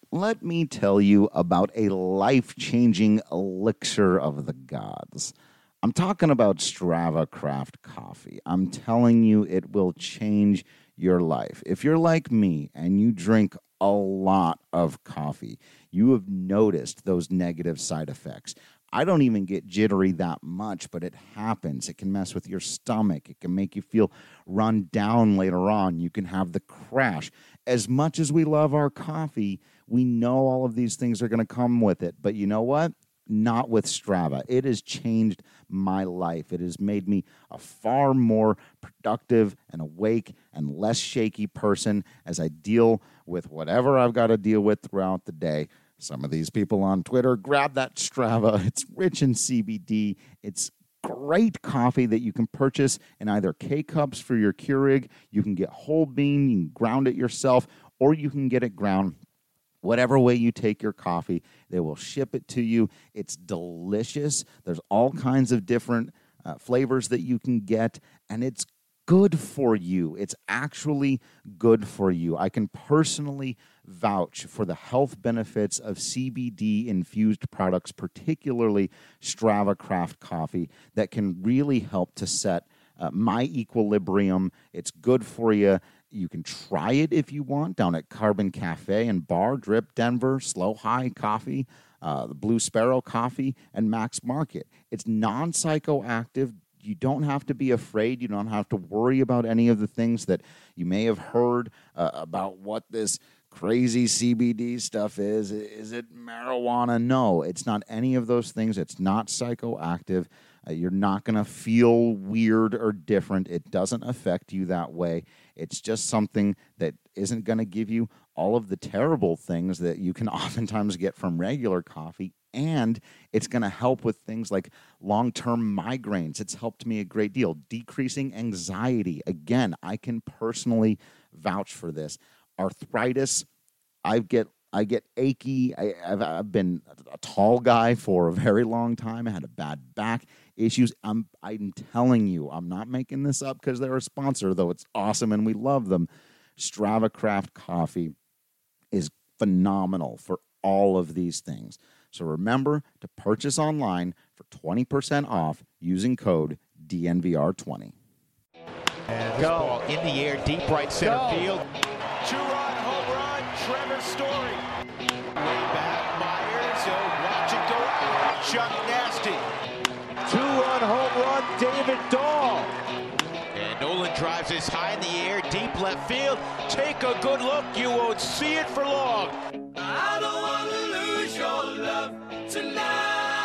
let me tell you about a life-changing elixir of the gods. I'm talking about Strava Craft Coffee. I'm telling you, it will change your life. If you're like me and you drink a lot of coffee, you have noticed those negative side effects. I don't even get jittery that much, but it happens. It can mess with your stomach. It can make you feel run down later on. You can have the crash. As much as we love our coffee, we know all of these things are going to come with it. But you know what? Not with Strava. It has changed my life. It has made me a far more productive and awake and less shaky person as I deal with whatever I've got to deal with throughout the day. Some of these people on Twitter, grab that Strava. It's rich in CBD. It's great coffee that you can purchase in either K-Cups for your Keurig. You can get whole bean, you can ground it yourself, or you can get it ground. Whatever way you take your coffee, they will ship it to you. It's delicious. There's all kinds of different flavors that you can get, and it's good for you. It's actually good for you. I can personally vouch for the health benefits of CBD-infused products, particularly Strava Craft Coffee, that can really help to set my equilibrium. It's good for you. You can try it if you want down at Carbon Cafe and Bar, Drip Denver, Slow High Coffee, the Blue Sparrow Coffee, and Max Market. It's non-psychoactive. You don't have to be afraid. You don't have to worry about any of the things that you may have heard about what this crazy CBD stuff is. Is it marijuana? No, it's not any of those things. It's not psychoactive. You're not going to feel weird or different. It doesn't affect you that way. It's just something that isn't going to give you all of the terrible things that you can oftentimes get from regular coffee. And it's going to help with things like long-term migraines. It's helped me a great deal. Decreasing anxiety. Again, I can personally vouch for this. Arthritis, I get achy. I've been a tall guy for a very long time. I had a bad back issues. I'm telling you, I'm not making this up because they're a sponsor, though it's awesome and we love them. Strava Craft Coffee is phenomenal for all of these things. So remember to purchase online for 20% off using code DNVR20. And go. Ball in the air, deep right center field. Two-run home run, Trevor Story. Way back, Myers, watch it go out. Chuck Nasty. Two-run home run, David Dahl. And Nolan drives this high in the air, deep left field. Take a good look, you won't see it for long. I don't want to lose your love tonight.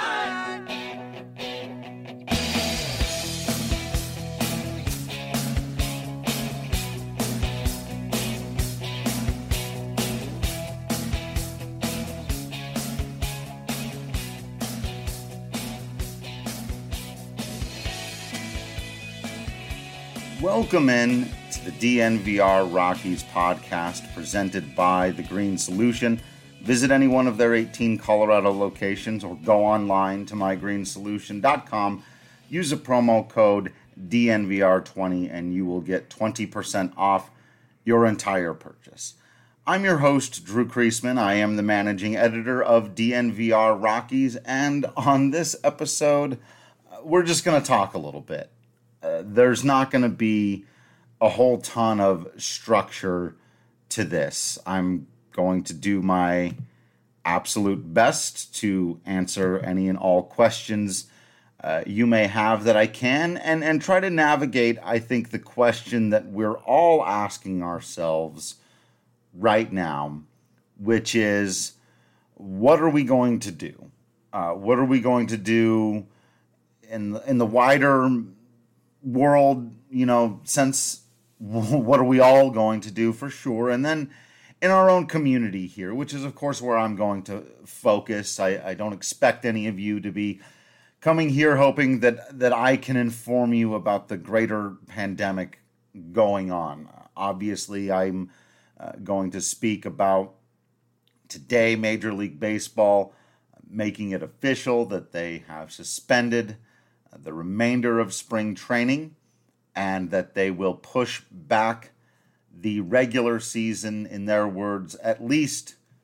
Welcome in to the DNVR Rockies podcast presented by The Green Solution. Visit any one of their 18 Colorado locations or go online to mygreensolution.com. Use the promo code DNVR20 and you will get 20% off your entire purchase. I'm your host, Drew Kreisman. I am the managing editor of DNVR Rockies, and on this episode, we're just going to talk a little bit. There's not going to be a whole ton of structure to this. I'm going to do my absolute best to answer any and all questions you may have that I can, and try to navigate, I think, the question that we're all asking ourselves right now, which is, what are we going to do? What are we going to do in the wider world, sense? What are we all going to do for sure? And then in our own community here, which is, of course, where I'm going to focus. I don't expect any of you to be coming here hoping that I can inform you about the greater pandemic going on. Obviously, I'm going to speak about today, Major League Baseball making it official that they have suspended the remainder of spring training and that they will push back the regular season, in their words, at least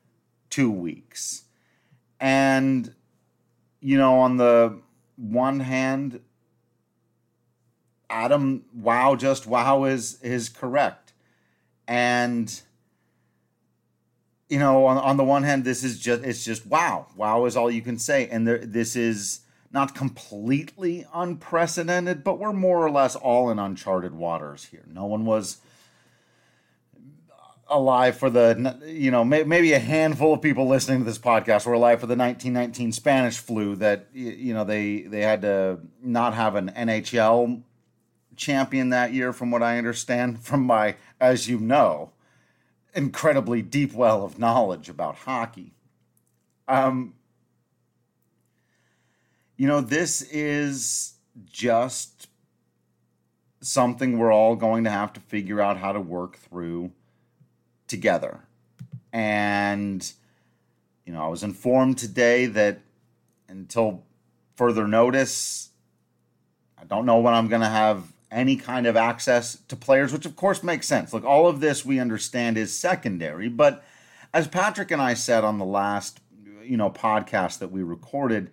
2 weeks. And, on the one hand, Adam, wow is correct. And, on the one hand, it's just wow. Wow is all you can say. And this is not completely unprecedented, but we're more or less all in uncharted waters here. No one was alive for maybe a handful of people listening to this podcast were alive for the 1919 Spanish flu that, they had to not have an NHL champion that year, from what I understand, from my, as you know, incredibly deep well of knowledge about hockey. This is just something we're all going to have to figure out how to work through together. And, I was informed today that until further notice, I don't know when I'm going to have any kind of access to players, which of course makes sense. Look, all of this we understand is secondary, but as Patrick and I said on the last, podcast that we recorded,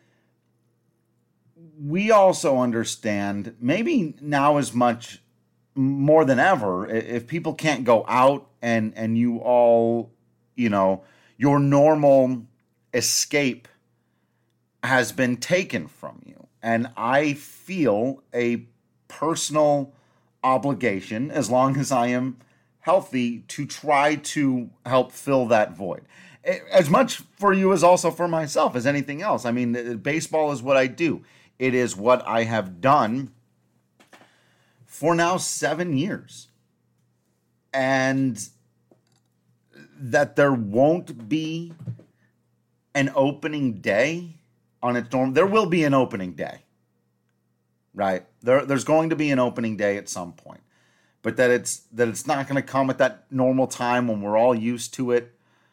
we also understand, maybe now as much more than ever, if people can't go out and you all, your normal escape has been taken from you. And I feel a personal obligation, as long as I am healthy, to try to help fill that void. As much for you as also for myself as anything else. I mean, baseball is what I do. It is what I have done for now 7 years. And that there won't be an opening day on its norm. There will be an opening day, right? There's going to be an opening day at some point. But that it's not going to come at that normal time when we're all used to it.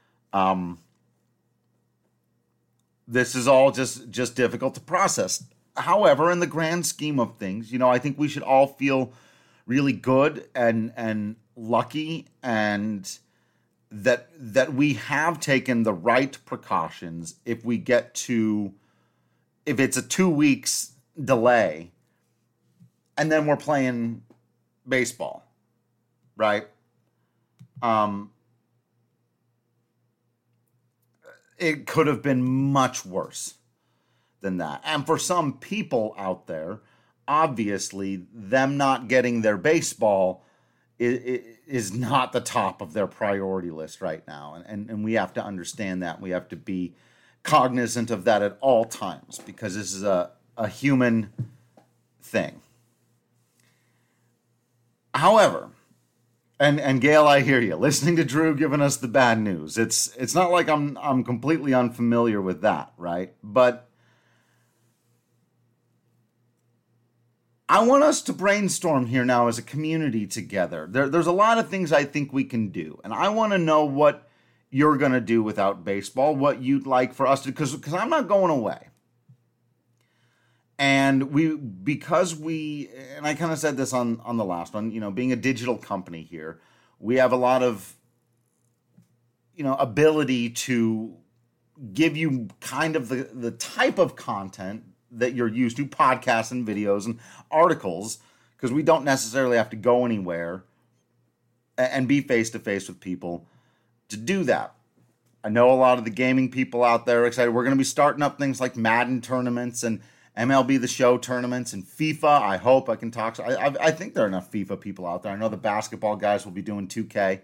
This is all just difficult to process. However, in the grand scheme of things, I think we should all feel really good and lucky, and that we have taken the right precautions. If it's a 2 weeks delay, and then we're playing baseball, right? It could have been much worse than that. And for some people out there, obviously, them not getting their baseball is not the top of their priority list right now. And we have to understand that. We have to be cognizant of that at all times, because this is a human thing. However, and Gail, I hear you. Listening to Drew giving us the bad news. It's not like I'm completely unfamiliar with that, right? But I want us to brainstorm here now as a community together. There's a lot of things I think we can do, and I want to know what you're going to do without baseball, what you'd like for us to, because I'm not going away. And and I kind of said this on the last one, being a digital company here, we have a lot of, ability to give you kind of the type of content that you're used to, podcasts and videos and articles, because we don't necessarily have to go anywhere and be face-to-face with people to do that. I know a lot of the gaming people out there are excited. We're going to be starting up things like Madden tournaments and MLB The Show tournaments and FIFA. I hope I can talk. I think there are enough FIFA people out there. I know the basketball guys will be doing 2K.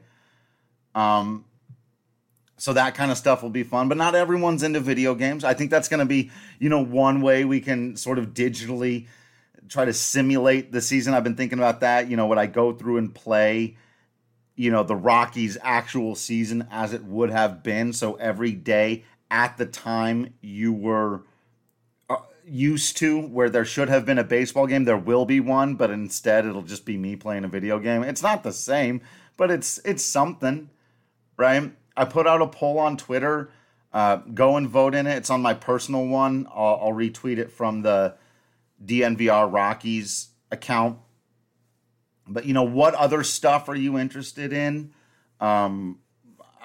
So that kind of stuff will be fun. But not everyone's into video games. I think that's going to be, one way we can sort of digitally try to simulate the season. I've been thinking about that. Would I go through and play, the Rockies' actual season as it would have been? So every day at the time you were used to, where there should have been a baseball game, there will be one, but instead it'll just be me playing a video game. It's not the same, but it's something, right? I put out a poll on Twitter. Go and vote in it. It's on my personal one. I'll retweet it from the DNVR Rockies account. But what other stuff are you interested in?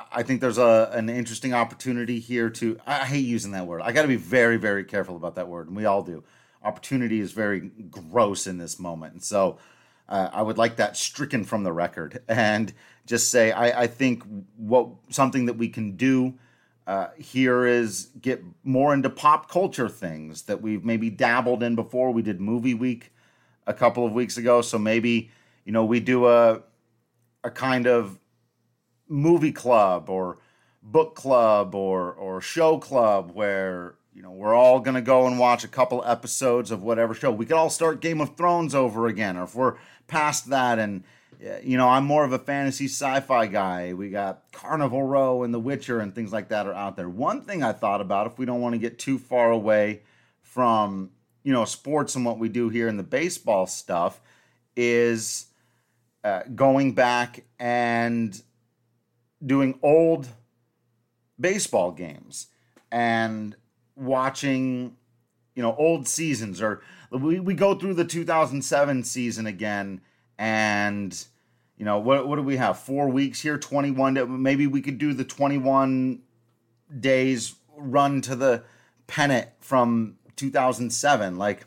I think there's an interesting opportunity here to, I hate using that word. I got to be very, very careful about that word, and we all do. Opportunity is very gross in this moment. And so I would like that stricken from the record and just say, I think something that we can do here is get more into pop culture things that we've maybe dabbled in before. We did Movie Week a couple of weeks ago. So maybe, we do a kind of movie club or book club or show club where, we're all going to go and watch a couple episodes of whatever show. We could all start Game of Thrones over again, or if we're past that and, I'm more of a fantasy sci-fi guy. We got Carnival Row and The Witcher and things like that are out there. One thing I thought about, if we don't want to get too far away from, sports and what we do here in the baseball stuff, is going back and doing old baseball games and watching, old seasons, or we go through the 2007 season again, and what do we have? 4 weeks here, 21. Maybe we could do the 21 days run to the pennant from 2007. Like,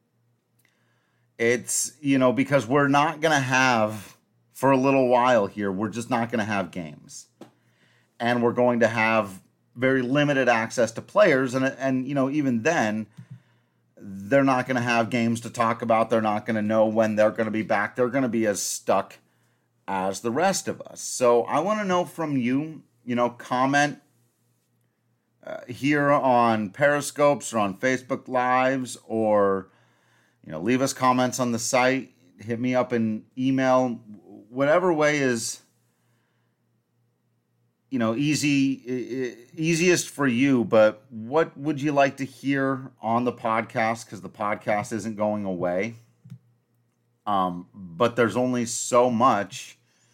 it's, because we're not going to have, for a little while here, we're just not going to have games. And we're going to have very limited access to players. And even then, they're not going to have games to talk about. They're not going to know when they're going to be back. They're going to be as stuck as the rest of us. So I want to know from you, comment here on Periscopes or on Facebook Lives, or, leave us comments on the site. Hit me up in email. Whatever way is, easiest for you, but what would you like to hear on the podcast? Because the podcast isn't going away. But there's only so much.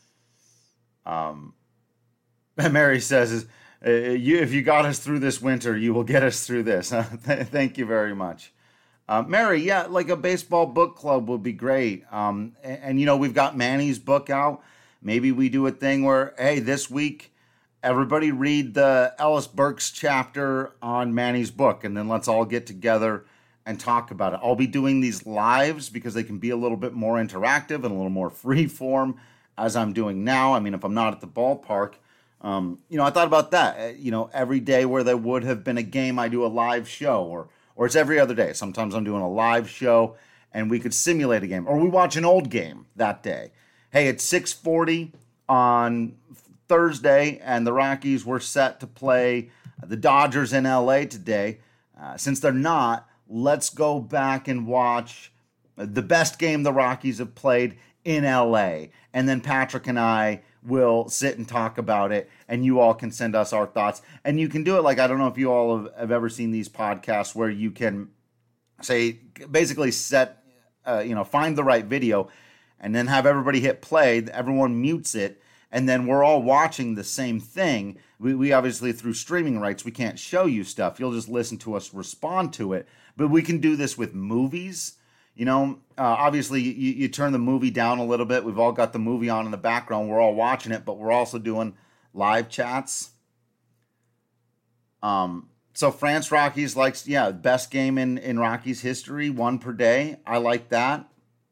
Mary says, if you got us through this winter, you will get us through this. Thank you very much. Mary, yeah, like a baseball book club would be great. And we've got Manny's book out. Maybe we do a thing where, hey, this week, everybody read the Ellis Burks chapter on Manny's book, and then let's all get together and talk about it. I'll be doing these lives because they can be a little bit more interactive and a little more free form, as I'm doing now. I mean, if I'm not at the ballpark, I thought about that. Every day where there would have been a game, I do a live show, or it's every other day. Sometimes I'm doing a live show, and we could simulate a game, or we watch an old game that day. Hey, it's 6:40 on Thursday, and the Rockies were set to play the Dodgers in LA today. Since they're not, let's go back and watch the best game the Rockies have played in LA. And then Patrick and I will sit and talk about it, and you all can send us our thoughts. And you can do it like, I don't know if you all have ever seen these podcasts where you can say, basically set, find the right video and then have everybody hit play. Everyone mutes it. And then we're all watching the same thing. We obviously, through streaming rights, we can't show you stuff. You'll just listen to us respond to it. But we can do this with movies. Obviously, you turn the movie down a little bit. We've all got the movie on in the background. We're all watching it, but we're also doing live chats. So France Rockies likes, best game in Rockies history, 1 per day. I like that.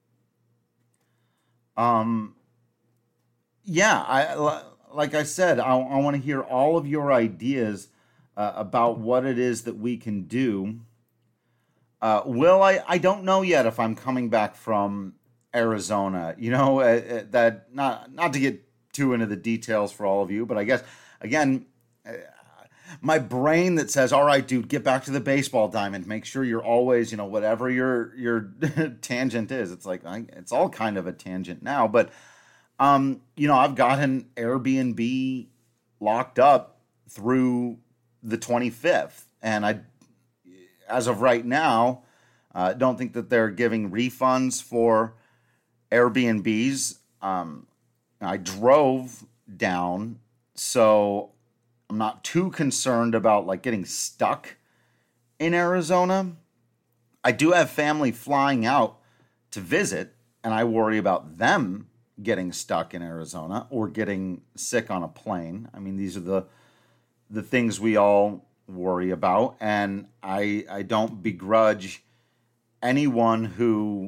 Like I said, I want to hear all of your ideas about what it is that we can do. Will, I don't know yet if I'm coming back from Arizona. That not to get too into the details for all of you, but I guess, again, my brain that says, all right, dude, get back to the baseball diamond. Make sure you're always, whatever your tangent is. It's like, it's all kind of a tangent now, but I've got an Airbnb locked up through the 25th, and as of right now, don't think that they're giving refunds for Airbnbs. I drove down, so I'm not too concerned about like getting stuck in Arizona. I do have family flying out to visit, and I worry about them getting stuck in Arizona or getting sick on a plane. I mean, these are the things we all worry about, and I don't begrudge anyone who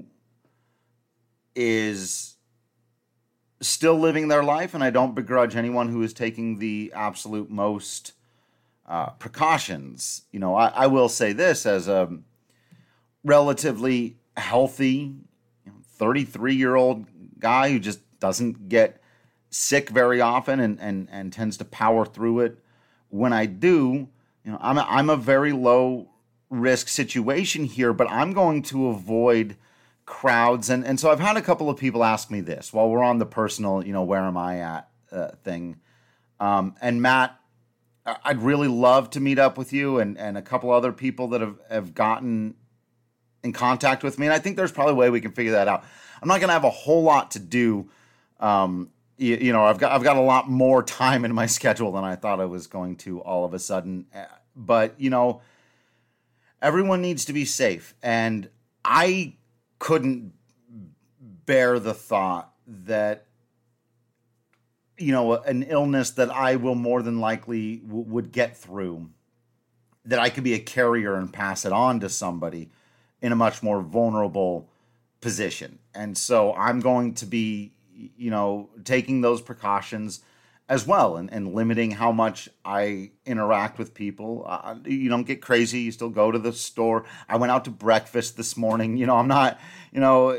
is still living their life, and I don't begrudge anyone who is taking the absolute most precautions. You know, I will say this as a relatively healthy 33-year-old guy who just doesn't get sick very often and tends to power through it. When I do, you know, I'm a very low risk situation here, but I'm going to avoid crowds. And so I've had a couple of people ask me this while we're on the personal, you know, where am I at thing. And Matt, I'd really love to meet up with you and a couple other people that have gotten in contact with me. And I think there's probably a way we can figure that out. I'm not going to have a whole lot to do. You know, I've got a lot more time in my schedule than I thought I was going to all of a sudden. But, you know, everyone needs to be safe. And I couldn't bear the thought that, you know, an illness that I will more than likely would get through, that I could be a carrier and pass it on to somebody in a much more vulnerable position. And so I'm going to be, you know, taking those precautions as well and limiting how much I interact with people. You don't get crazy. You still go to the store. I went out to breakfast this morning. You know, I'm not, you know,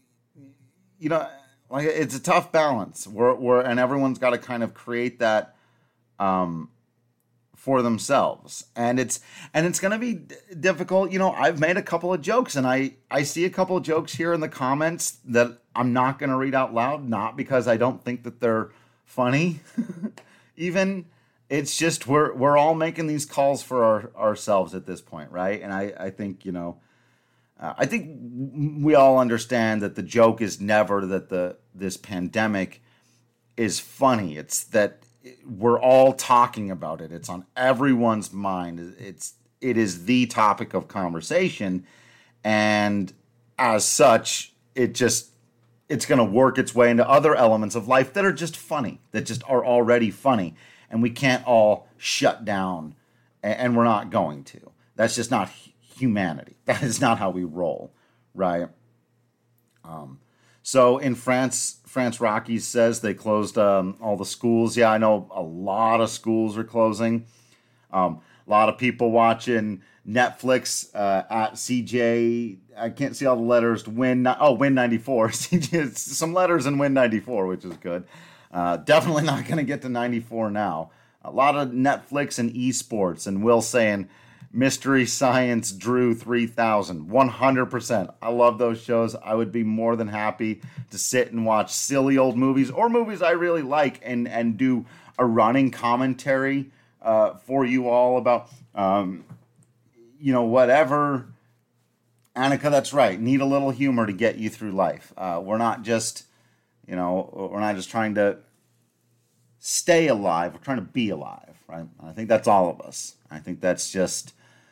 like it's a tough balance. And everyone's got to kind of create that for themselves. And it's going to be difficult. You know, I've made a couple of jokes, and I see a couple of jokes here in the comments that I'm not going to read out loud, not because I don't think that they're funny. Even it's just we're all making these calls for ourselves at this point, right? And I think, you know, I think we all understand that the joke is never that this pandemic is funny. It's that we're all talking about it. It's on everyone's mind. It is the topic of conversation, and as such, it's going to work its way into other elements of life that are just funny, that just are already funny, and we can't all shut down, and we're not going to. That's just not humanity. That is not how we roll, right? So in France Rockies says they closed all the schools. Yeah, I know a lot of schools are closing. A lot of people watching Netflix at CJ. I can't see all the letters. Win 94. Some letters in Win 94, which is good. Definitely not going to get to 94 now. A lot of Netflix and esports, and Will saying Mystery Science Drew 3000. 100%. I love those shows. I would be more than happy to sit and watch silly old movies or movies I really like and do a running commentary for you all about, you know, whatever. Annika, that's right. Need a little humor to get you through life. We're not just trying to stay alive. We're trying to be alive, right? I think that's all of us. I think that's just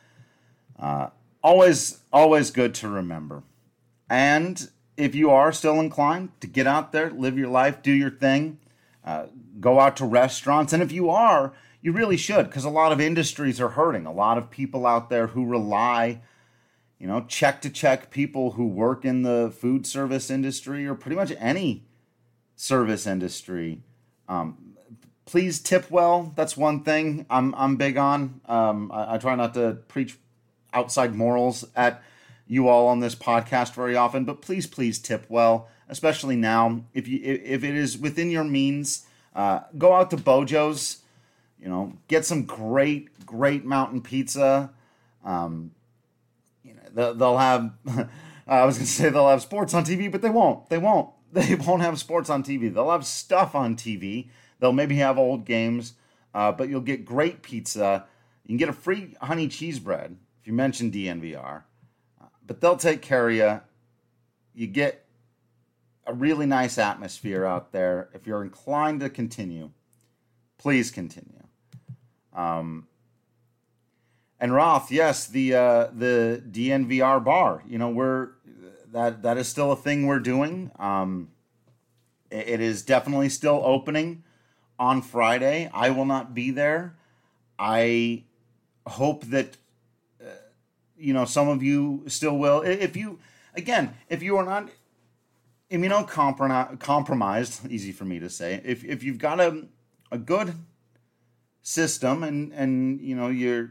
always good to remember. And if you are still inclined to get out there, live your life, do your thing, go out to restaurants. And if you are, you really should, because a lot of industries are hurting. A lot of people out there who rely, you know, check to check, people who work in the food service industry or pretty much any service industry. Please tip well. That's one thing I'm big on. I try not to preach outside morals at you all on this podcast very often, but please tip well, especially now. If it is within your means, go out to Bojo's. You know, get some great mountain pizza. You know, they'll have. I was gonna say they'll have sports on TV, but they won't. They won't have sports on TV. They'll have stuff on TV. They'll maybe have old games, but you'll get great pizza. You can get a free honey cheese bread if you mention DNVR. But they'll take care of you. You get a really nice atmosphere out there. If you're inclined to continue, please continue. And Roth, yes, the DNVR bar. You know, that is still a thing we're doing. It is definitely still opening on Friday. I will not be there. I hope that some of you still will. If you are not immunocompromised, easy for me to say, if you've got a good system and you're,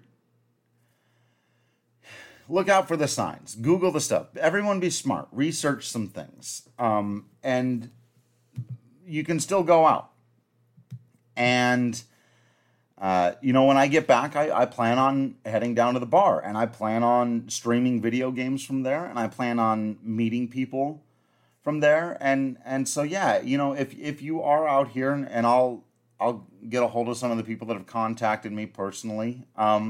look out for the signs, Google the stuff, everyone be smart, research some things, and you can still go out. And when I get back, I plan on heading down to the bar, and I plan on streaming video games from there, and I plan on meeting people from there. And so, yeah, if you are out here, and I'll get a hold of some of the people that have contacted me personally.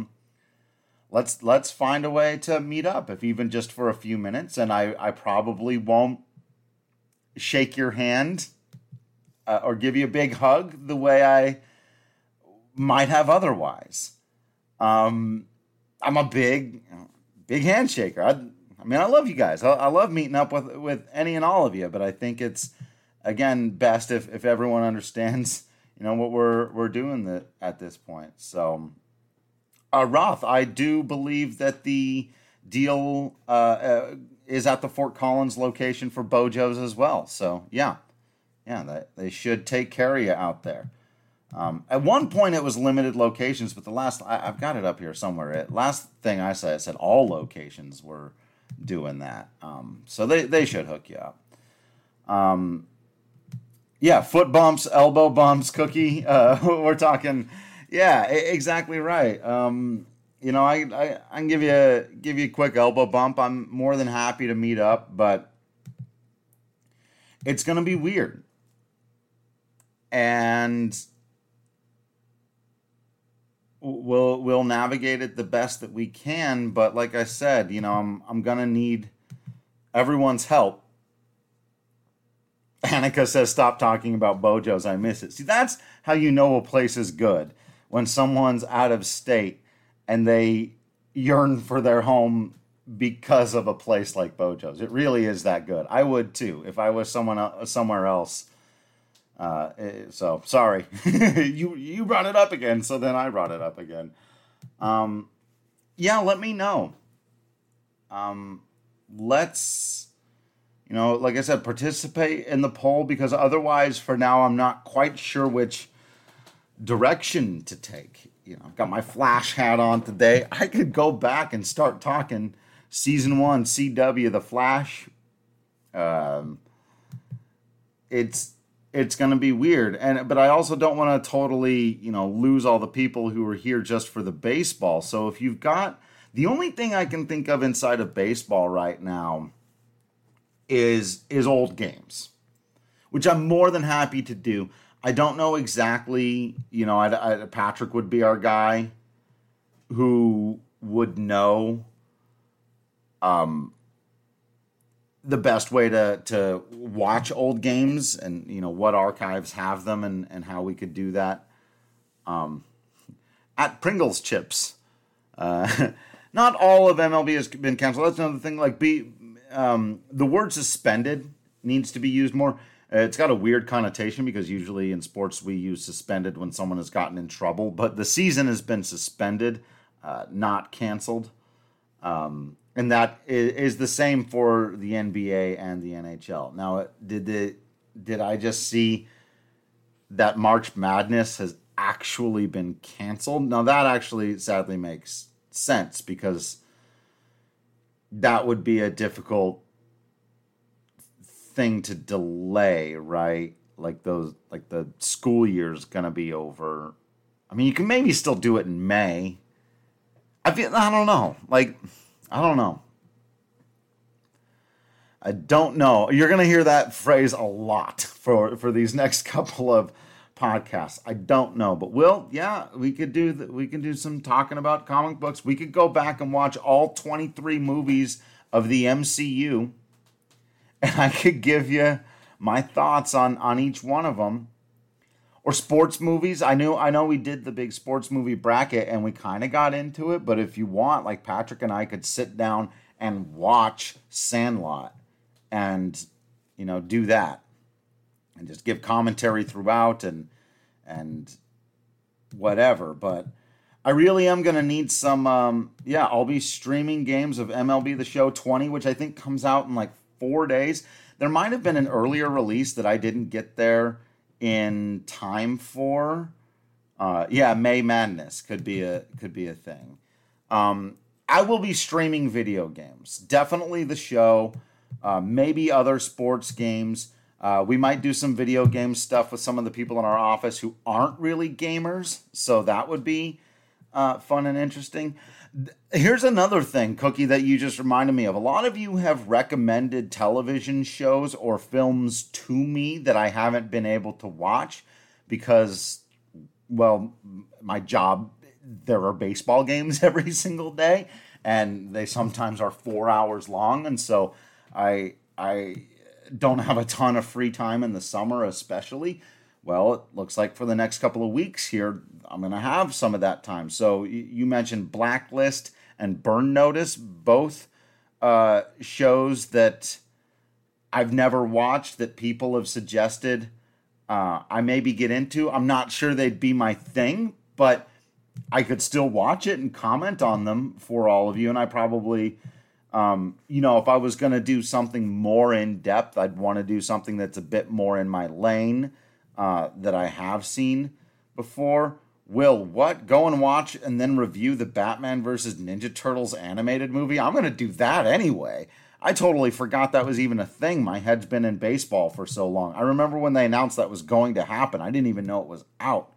Let's find a way to meet up, if even just for a few minutes. And I probably won't shake your hand or give you a big hug the way I might have otherwise. I'm a big handshaker. I love you guys. I love meeting up with any and all of you, but I think it's, again, best if everyone understands, what we're doing at this point. So, Roth, I do believe that the deal is at the Fort Collins location for Bojo's as well. So, yeah, they should take care of you out there. At one point, it was limited locations, but I've got it up here somewhere. Last thing I said all locations were doing that. So they should hook you up. Foot bumps, elbow bumps, Cookie. We're talking, exactly right. I can give you a quick elbow bump. I'm more than happy to meet up, but it's going to be weird. And we'll navigate it the best that we can, but like I said, I'm gonna need everyone's help. Annika says, "Stop talking about Bojo's. I miss it." See, that's how you know a place is good, when someone's out of state and they yearn for their home because of a place like Bojo's. It really is that good. I would too if I was somewhere else. So sorry, you brought it up again. So then I brought it up again. Let me know. Let's, like I said, participate in the poll, because otherwise for now, I'm not quite sure which direction to take. I've got my Flash hat on today. I could go back and start talking season 1, CW, The Flash. It's going to be weird. But I also don't want to totally, lose all the people who are here just for the baseball. So if you've got, the only thing I can think of inside of baseball right now is old games, which I'm more than happy to do. I don't know exactly, Patrick would be our guy who would know, the best way to watch old games, and what archives have them, and how we could do that. At Pringles Chips, not all of MLB has been canceled. That's another thing. Like the word suspended needs to be used more. It's got a weird connotation, because usually in sports we use suspended when someone has gotten in trouble, but the season has been suspended, not canceled. And that is the same for the NBA and the NHL. Now, did I just see that March Madness has actually been canceled? Now, that actually sadly makes sense, because that would be a difficult thing to delay, right? Like the school year's gonna be over. I mean, you can maybe still do it in May. I don't know. I don't know. I don't know. You're going to hear that phrase a lot for these next couple of podcasts. I don't know, but we could do some talking about comic books. We could go back and watch all 23 movies of the MCU, and I could give you my thoughts on each one of them. Or sports movies. I know we did the big sports movie bracket, and we kind of got into it, but if you want, like, Patrick and I could sit down and watch Sandlot and, do that. and just give commentary throughout and whatever. But I really am going to need some, I'll be streaming games of MLB The Show 20, which I think comes out in like 4 days. There might have been an earlier release that I didn't get there in time for. May Madness could be a thing. I will be streaming video games. Definitely the show. Maybe other sports games. We might do some video game stuff with some of the people in our office who aren't really gamers. So that would be fun and interesting. Here's another thing, Cookie, that you just reminded me of. A lot of you have recommended television shows or films to me that I haven't been able to watch because, well, my job, there are baseball games every single day, and they sometimes are 4 hours long, and so I don't have a ton of free time in the summer especially. Well, it looks like for the next couple of weeks here, I'm going to have some of that time. So you mentioned Blacklist and Burn Notice, both shows that I've never watched that people have suggested I maybe get into. I'm not sure they'd be my thing, but I could still watch it and comment on them for all of you. And I probably, if I was going to do something more in depth, I'd want to do something that's a bit more in my lane that I have seen before. Will, what? Go and watch and then review the Batman versus Ninja Turtles animated movie? I'm going to do that anyway. I totally forgot that was even a thing. My head's been in baseball for so long. I remember when they announced that was going to happen. I didn't even know it was out.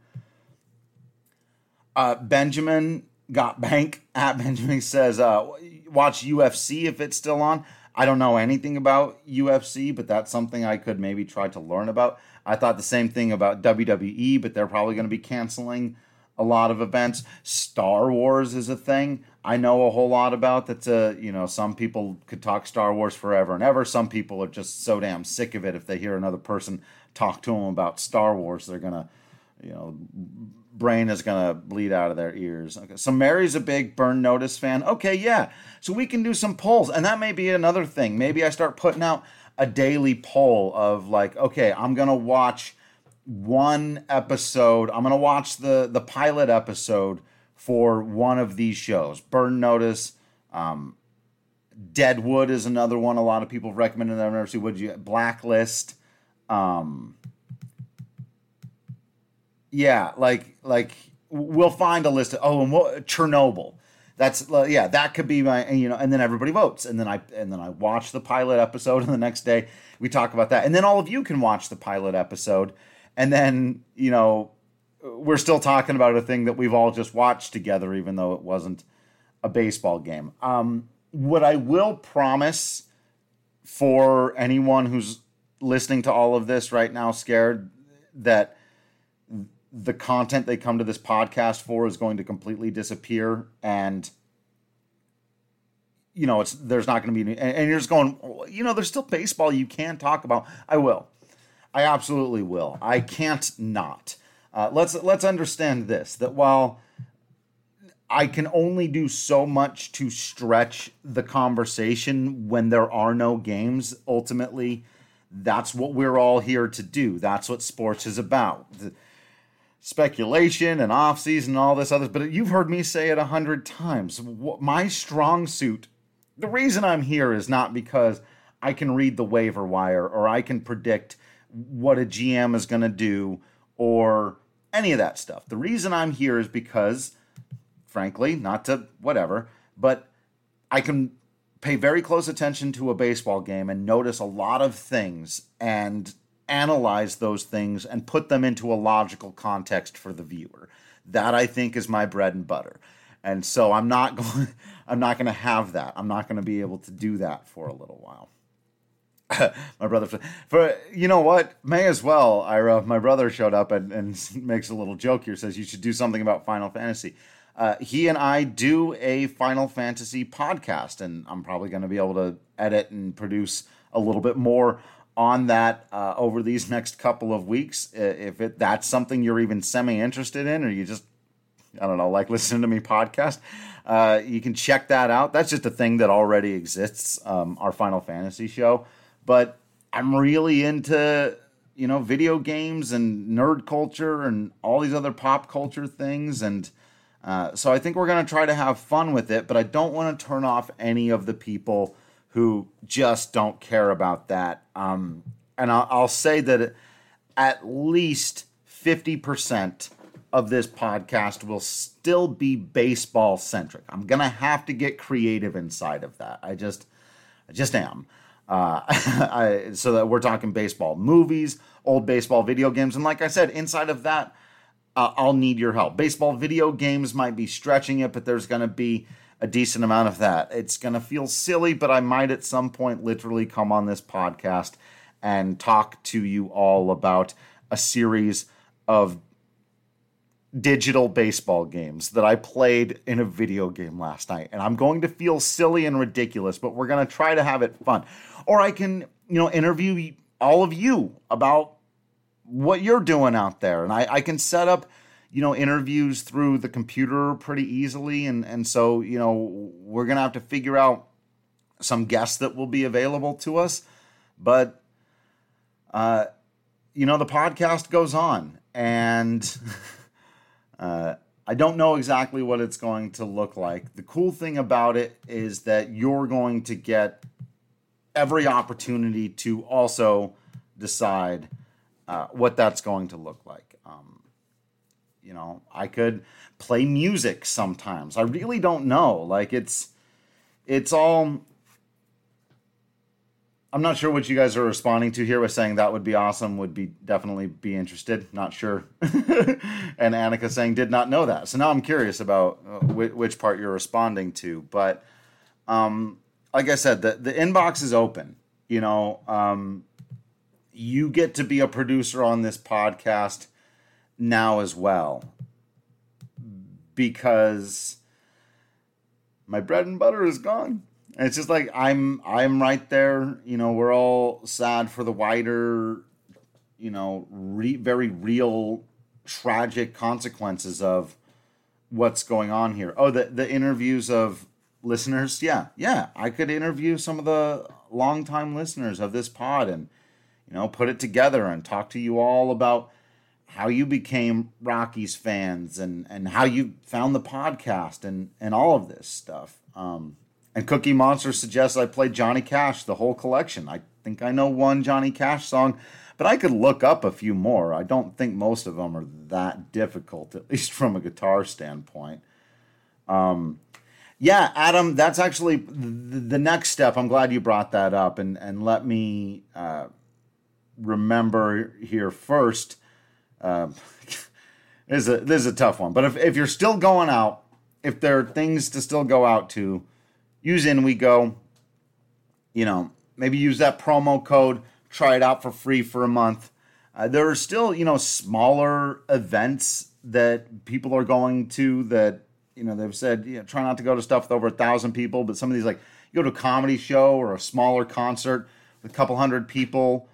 Benjamin Got Bank at Benjamin says, watch UFC if it's still on. I don't know anything about UFC, but that's something I could maybe try to learn about. I thought the same thing about WWE, but they're probably going to be canceling a lot of events. Star Wars is a thing I know a whole lot about. That's some people could talk Star Wars forever and ever. Some people are just so damn sick of it. If they hear another person talk to them about Star Wars, they're going to, brain is going to bleed out of their ears. Okay, so Mary's a big Burn Notice fan. Okay, yeah. So we can do some polls, and that may be another thing. Maybe I start putting out a daily poll of like, okay, I'm going to watch one episode. I'm going to watch the pilot episode for one of these shows. Burn Notice, Deadwood is another one a lot of people have recommended. I've never seen. Blacklist. Yeah, like we'll find a list of, Chernobyl. That's that could be my, and then everybody votes, and then I watch the pilot episode, and the next day we talk about that, and then all of you can watch the pilot episode, and then we're still talking about a thing that we've all just watched together, even though it wasn't a baseball game. What I will promise for anyone who's listening to all of this right now, scared that the content they come to this podcast for is going to completely disappear, and there's not going to be any, and you're just going, there's still baseball you can talk about. I absolutely will. I can't not. Let's understand this, that while I can only do so much to stretch the conversation when there are no games, ultimately that's what we're all here to do. That's what sports is about. Speculation and off-season and all this other, but you've heard me say it 100 times. My strong suit, the reason I'm here is not because I can read the waiver wire or I can predict what a GM is going to do or any of that stuff. The reason I'm here is because, frankly, not to whatever, but I can pay very close attention to a baseball game and notice a lot of things and analyze those things and put them into a logical context for the viewer. That, I think, is my bread and butter. And so I'm not going to have that. I'm not going to be able to do that for a little while. My brother, may as well, Ira. My brother showed up and makes a little joke here, says you should do something about Final Fantasy. He and I do a Final Fantasy podcast, and I'm probably going to be able to edit and produce a little bit more on that over these next couple of weeks. If that's something you're even semi-interested in, or you just, I don't know, like listening to me podcast, you can check that out. That's just a thing that already exists, our Final Fantasy show. But I'm really into, video games and nerd culture and all these other pop culture things. And so I think we're going to try to have fun with it, but I don't want to turn off any of the people who just don't care about that. And I'll say that at least 50% of this podcast will still be baseball centric. I'm going to have to get creative inside of that. I just am. So that we're talking baseball movies, old baseball video games. And like I said, inside of that, I'll need your help. Baseball video games might be stretching it, but there's going to be a decent amount of that. It's going to feel silly, but I might at some point literally come on this podcast and talk to you all about a series of digital baseball games that I played in a video game last night. And I'm going to feel silly and ridiculous, but we're going to try to have it fun. Or I can, interview all of you about what you're doing out there. And I can set up, interviews through the computer pretty easily. And so, we're going to have to figure out some guests that will be available to us. But, the podcast goes on. And I don't know exactly what it's going to look like. The cool thing about it is that you're going to get every opportunity to also decide what that's going to look like. I could play music sometimes. I really don't know. Like it's all. I'm not sure what you guys are responding to here with saying that would be awesome, would be definitely be interested. Not sure. And Annika saying did not know that. So now I'm curious about which part you're responding to. But like I said, the inbox is open. You get to be a producer on this podcast now as well, because my bread and butter is gone. And it's just like I'm right there. We're all sad for the wider, very real, tragic consequences of what's going on here. Oh, the interviews of listeners. Yeah. I could interview some of the longtime listeners of this pod and, put it together and talk to you all about how you became Rockies fans and how you found the podcast and all of this stuff. And Cookie Monster suggests I play Johnny Cash, the whole collection. I think I know one Johnny Cash song, but I could look up a few more. I don't think most of them are that difficult, at least from a guitar standpoint. Yeah, Adam, that's actually the next step. I'm glad you brought that up. And let me remember here first. This is a tough one. But if you're still going out, if there are things to still go out to, use InWeGo. Maybe use that promo code. Try it out for free for a month. There are still, smaller events that people are going to that, they've said, try not to go to stuff with over 1,000 people. But some of these, like, you go to a comedy show or a smaller concert with a couple hundred people.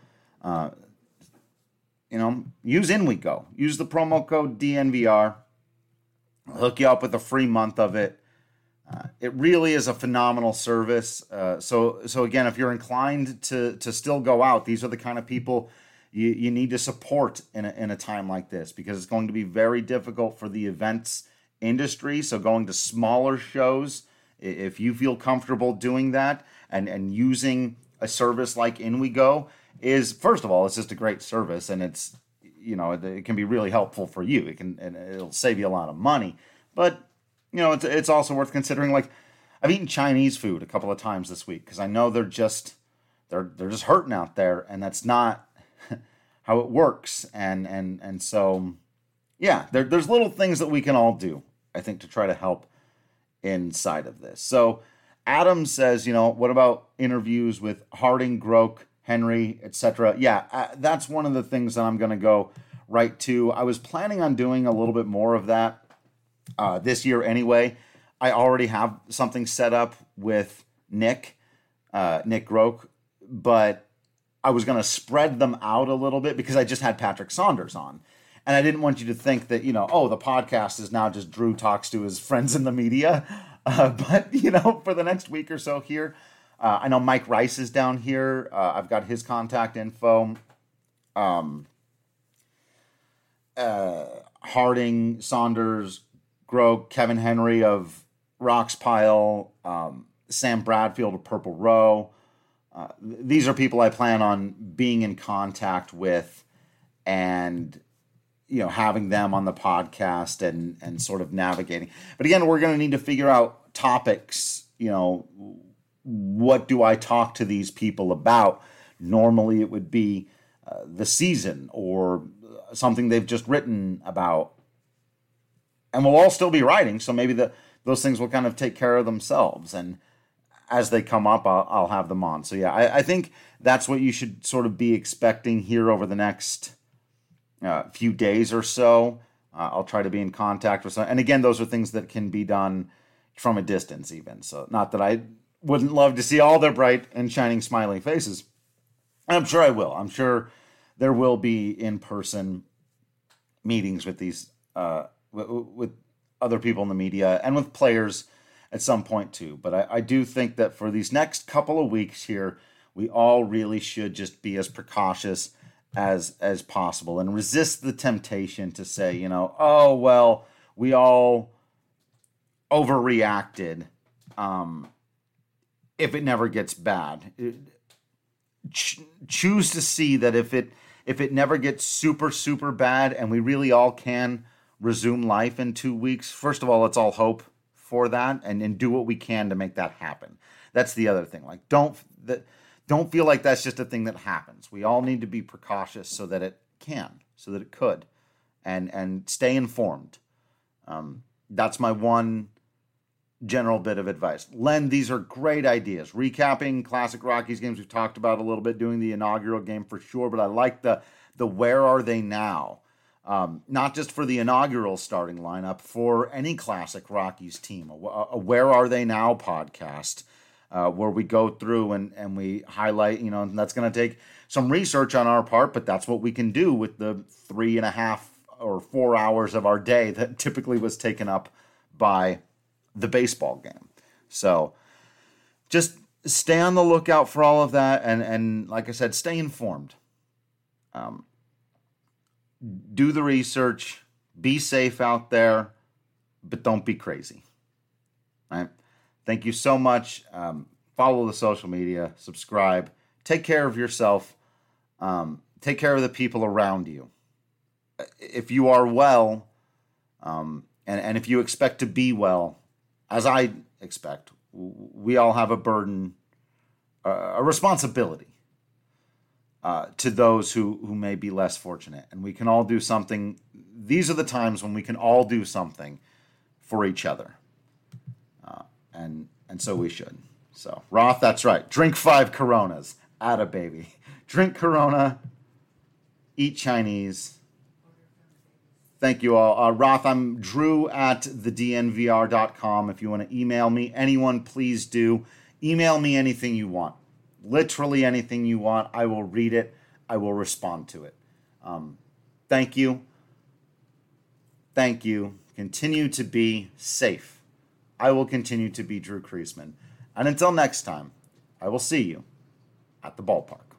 Use InWeGo. Use the promo code DNVR. I'll hook you up with a free month of it. It really is a phenomenal service. So again, if you're inclined to still go out, these are the kind of people you need to support in a time like this, because it's going to be very difficult for the events industry. So going to smaller shows, if you feel comfortable doing that and using a service like InWeGo, is, first of all, it's just a great service, and it's, it can be really helpful for you. It'll save you a lot of money, but it's also worth considering. Like, I've eaten Chinese food a couple of times this week because I know they're just hurting out there, and that's not how it works. And so, yeah, there's little things that we can all do, I think, to try to help inside of this. So Adam says, what about interviews with Harding, Groke, Henry, etc.? Yeah, that's one of the things that I'm going to go right to. I was planning on doing a little bit more of that this year anyway. I already have something set up with Nick Groke, but I was going to spread them out a little bit because I just had Patrick Saunders on. And I didn't want you to think that, the podcast is now just Drew talks to his friends in the media. But, for the next week or so here, I know Mike Rice is down here. I've got his contact info. Harding, Saunders, Grove, Kevin Henry of Rocks Pile, Sam Bradfield of Purple Row. These are people I plan on being in contact with and, having them on the podcast and sort of navigating. But again, we're going to need to figure out topics, what do I talk to these people about? Normally it would be the season or something they've just written about. And we'll all still be writing, so maybe those things will kind of take care of themselves. And as they come up, I'll have them on. So yeah, I think that's what you should sort of be expecting here over the next few days or so. I'll try to be in contact with some. And again, those are things that can be done from a distance even. So not that I wouldn't love to see all their bright and shining smiling faces. I'm sure I will. I'm sure there will be in-person meetings with these with other people in the media and with players at some point too. But I do think that for these next couple of weeks here, we all really should just be as precautious as possible and resist the temptation to say, oh, well, we all overreacted if it never gets bad. Choose to see that if it never gets super, super bad and we really all can resume life in 2 weeks, first of all, let's all hope for that and do what we can to make that happen. That's the other thing. Like, don't feel like that's just a thing that happens. We all need to be precautious so that it could, and stay informed. That's my one general bit of advice. Len, these are great ideas. Recapping Classic Rockies games we've talked about a little bit, doing the inaugural game for sure, but I like the where are they now? Not just for the inaugural starting lineup, for any Classic Rockies team. A Where Are They Now podcast, where we go through and we highlight, and that's going to take some research on our part, but that's what we can do with the 3.5 or 4 hours of our day that typically was taken up by the baseball game. So just stay on the lookout for all of that. And like I said, stay informed. Do the research, be safe out there, but don't be crazy. All right. Thank you so much. Follow the social media, subscribe, take care of yourself, take care of the people around you. If you are well, and if you expect to be well, as I expect, we all have a burden, a responsibility to those who may be less fortunate. And we can all do something. These are the times when we can all do something for each other. And so we should. So, Roth, that's right. Drink 5 Coronas. Atta baby. Drink Corona. Eat Chinese. Thank you all. Roth, I'm Drew at thednvr.com. If you want to email me, anyone, please do. Email me anything you want. Literally anything you want. I will read it. I will respond to it. Thank you. Thank you. Continue to be safe. I will continue to be Drew Kriesman. And until next time, I will see you at the ballpark.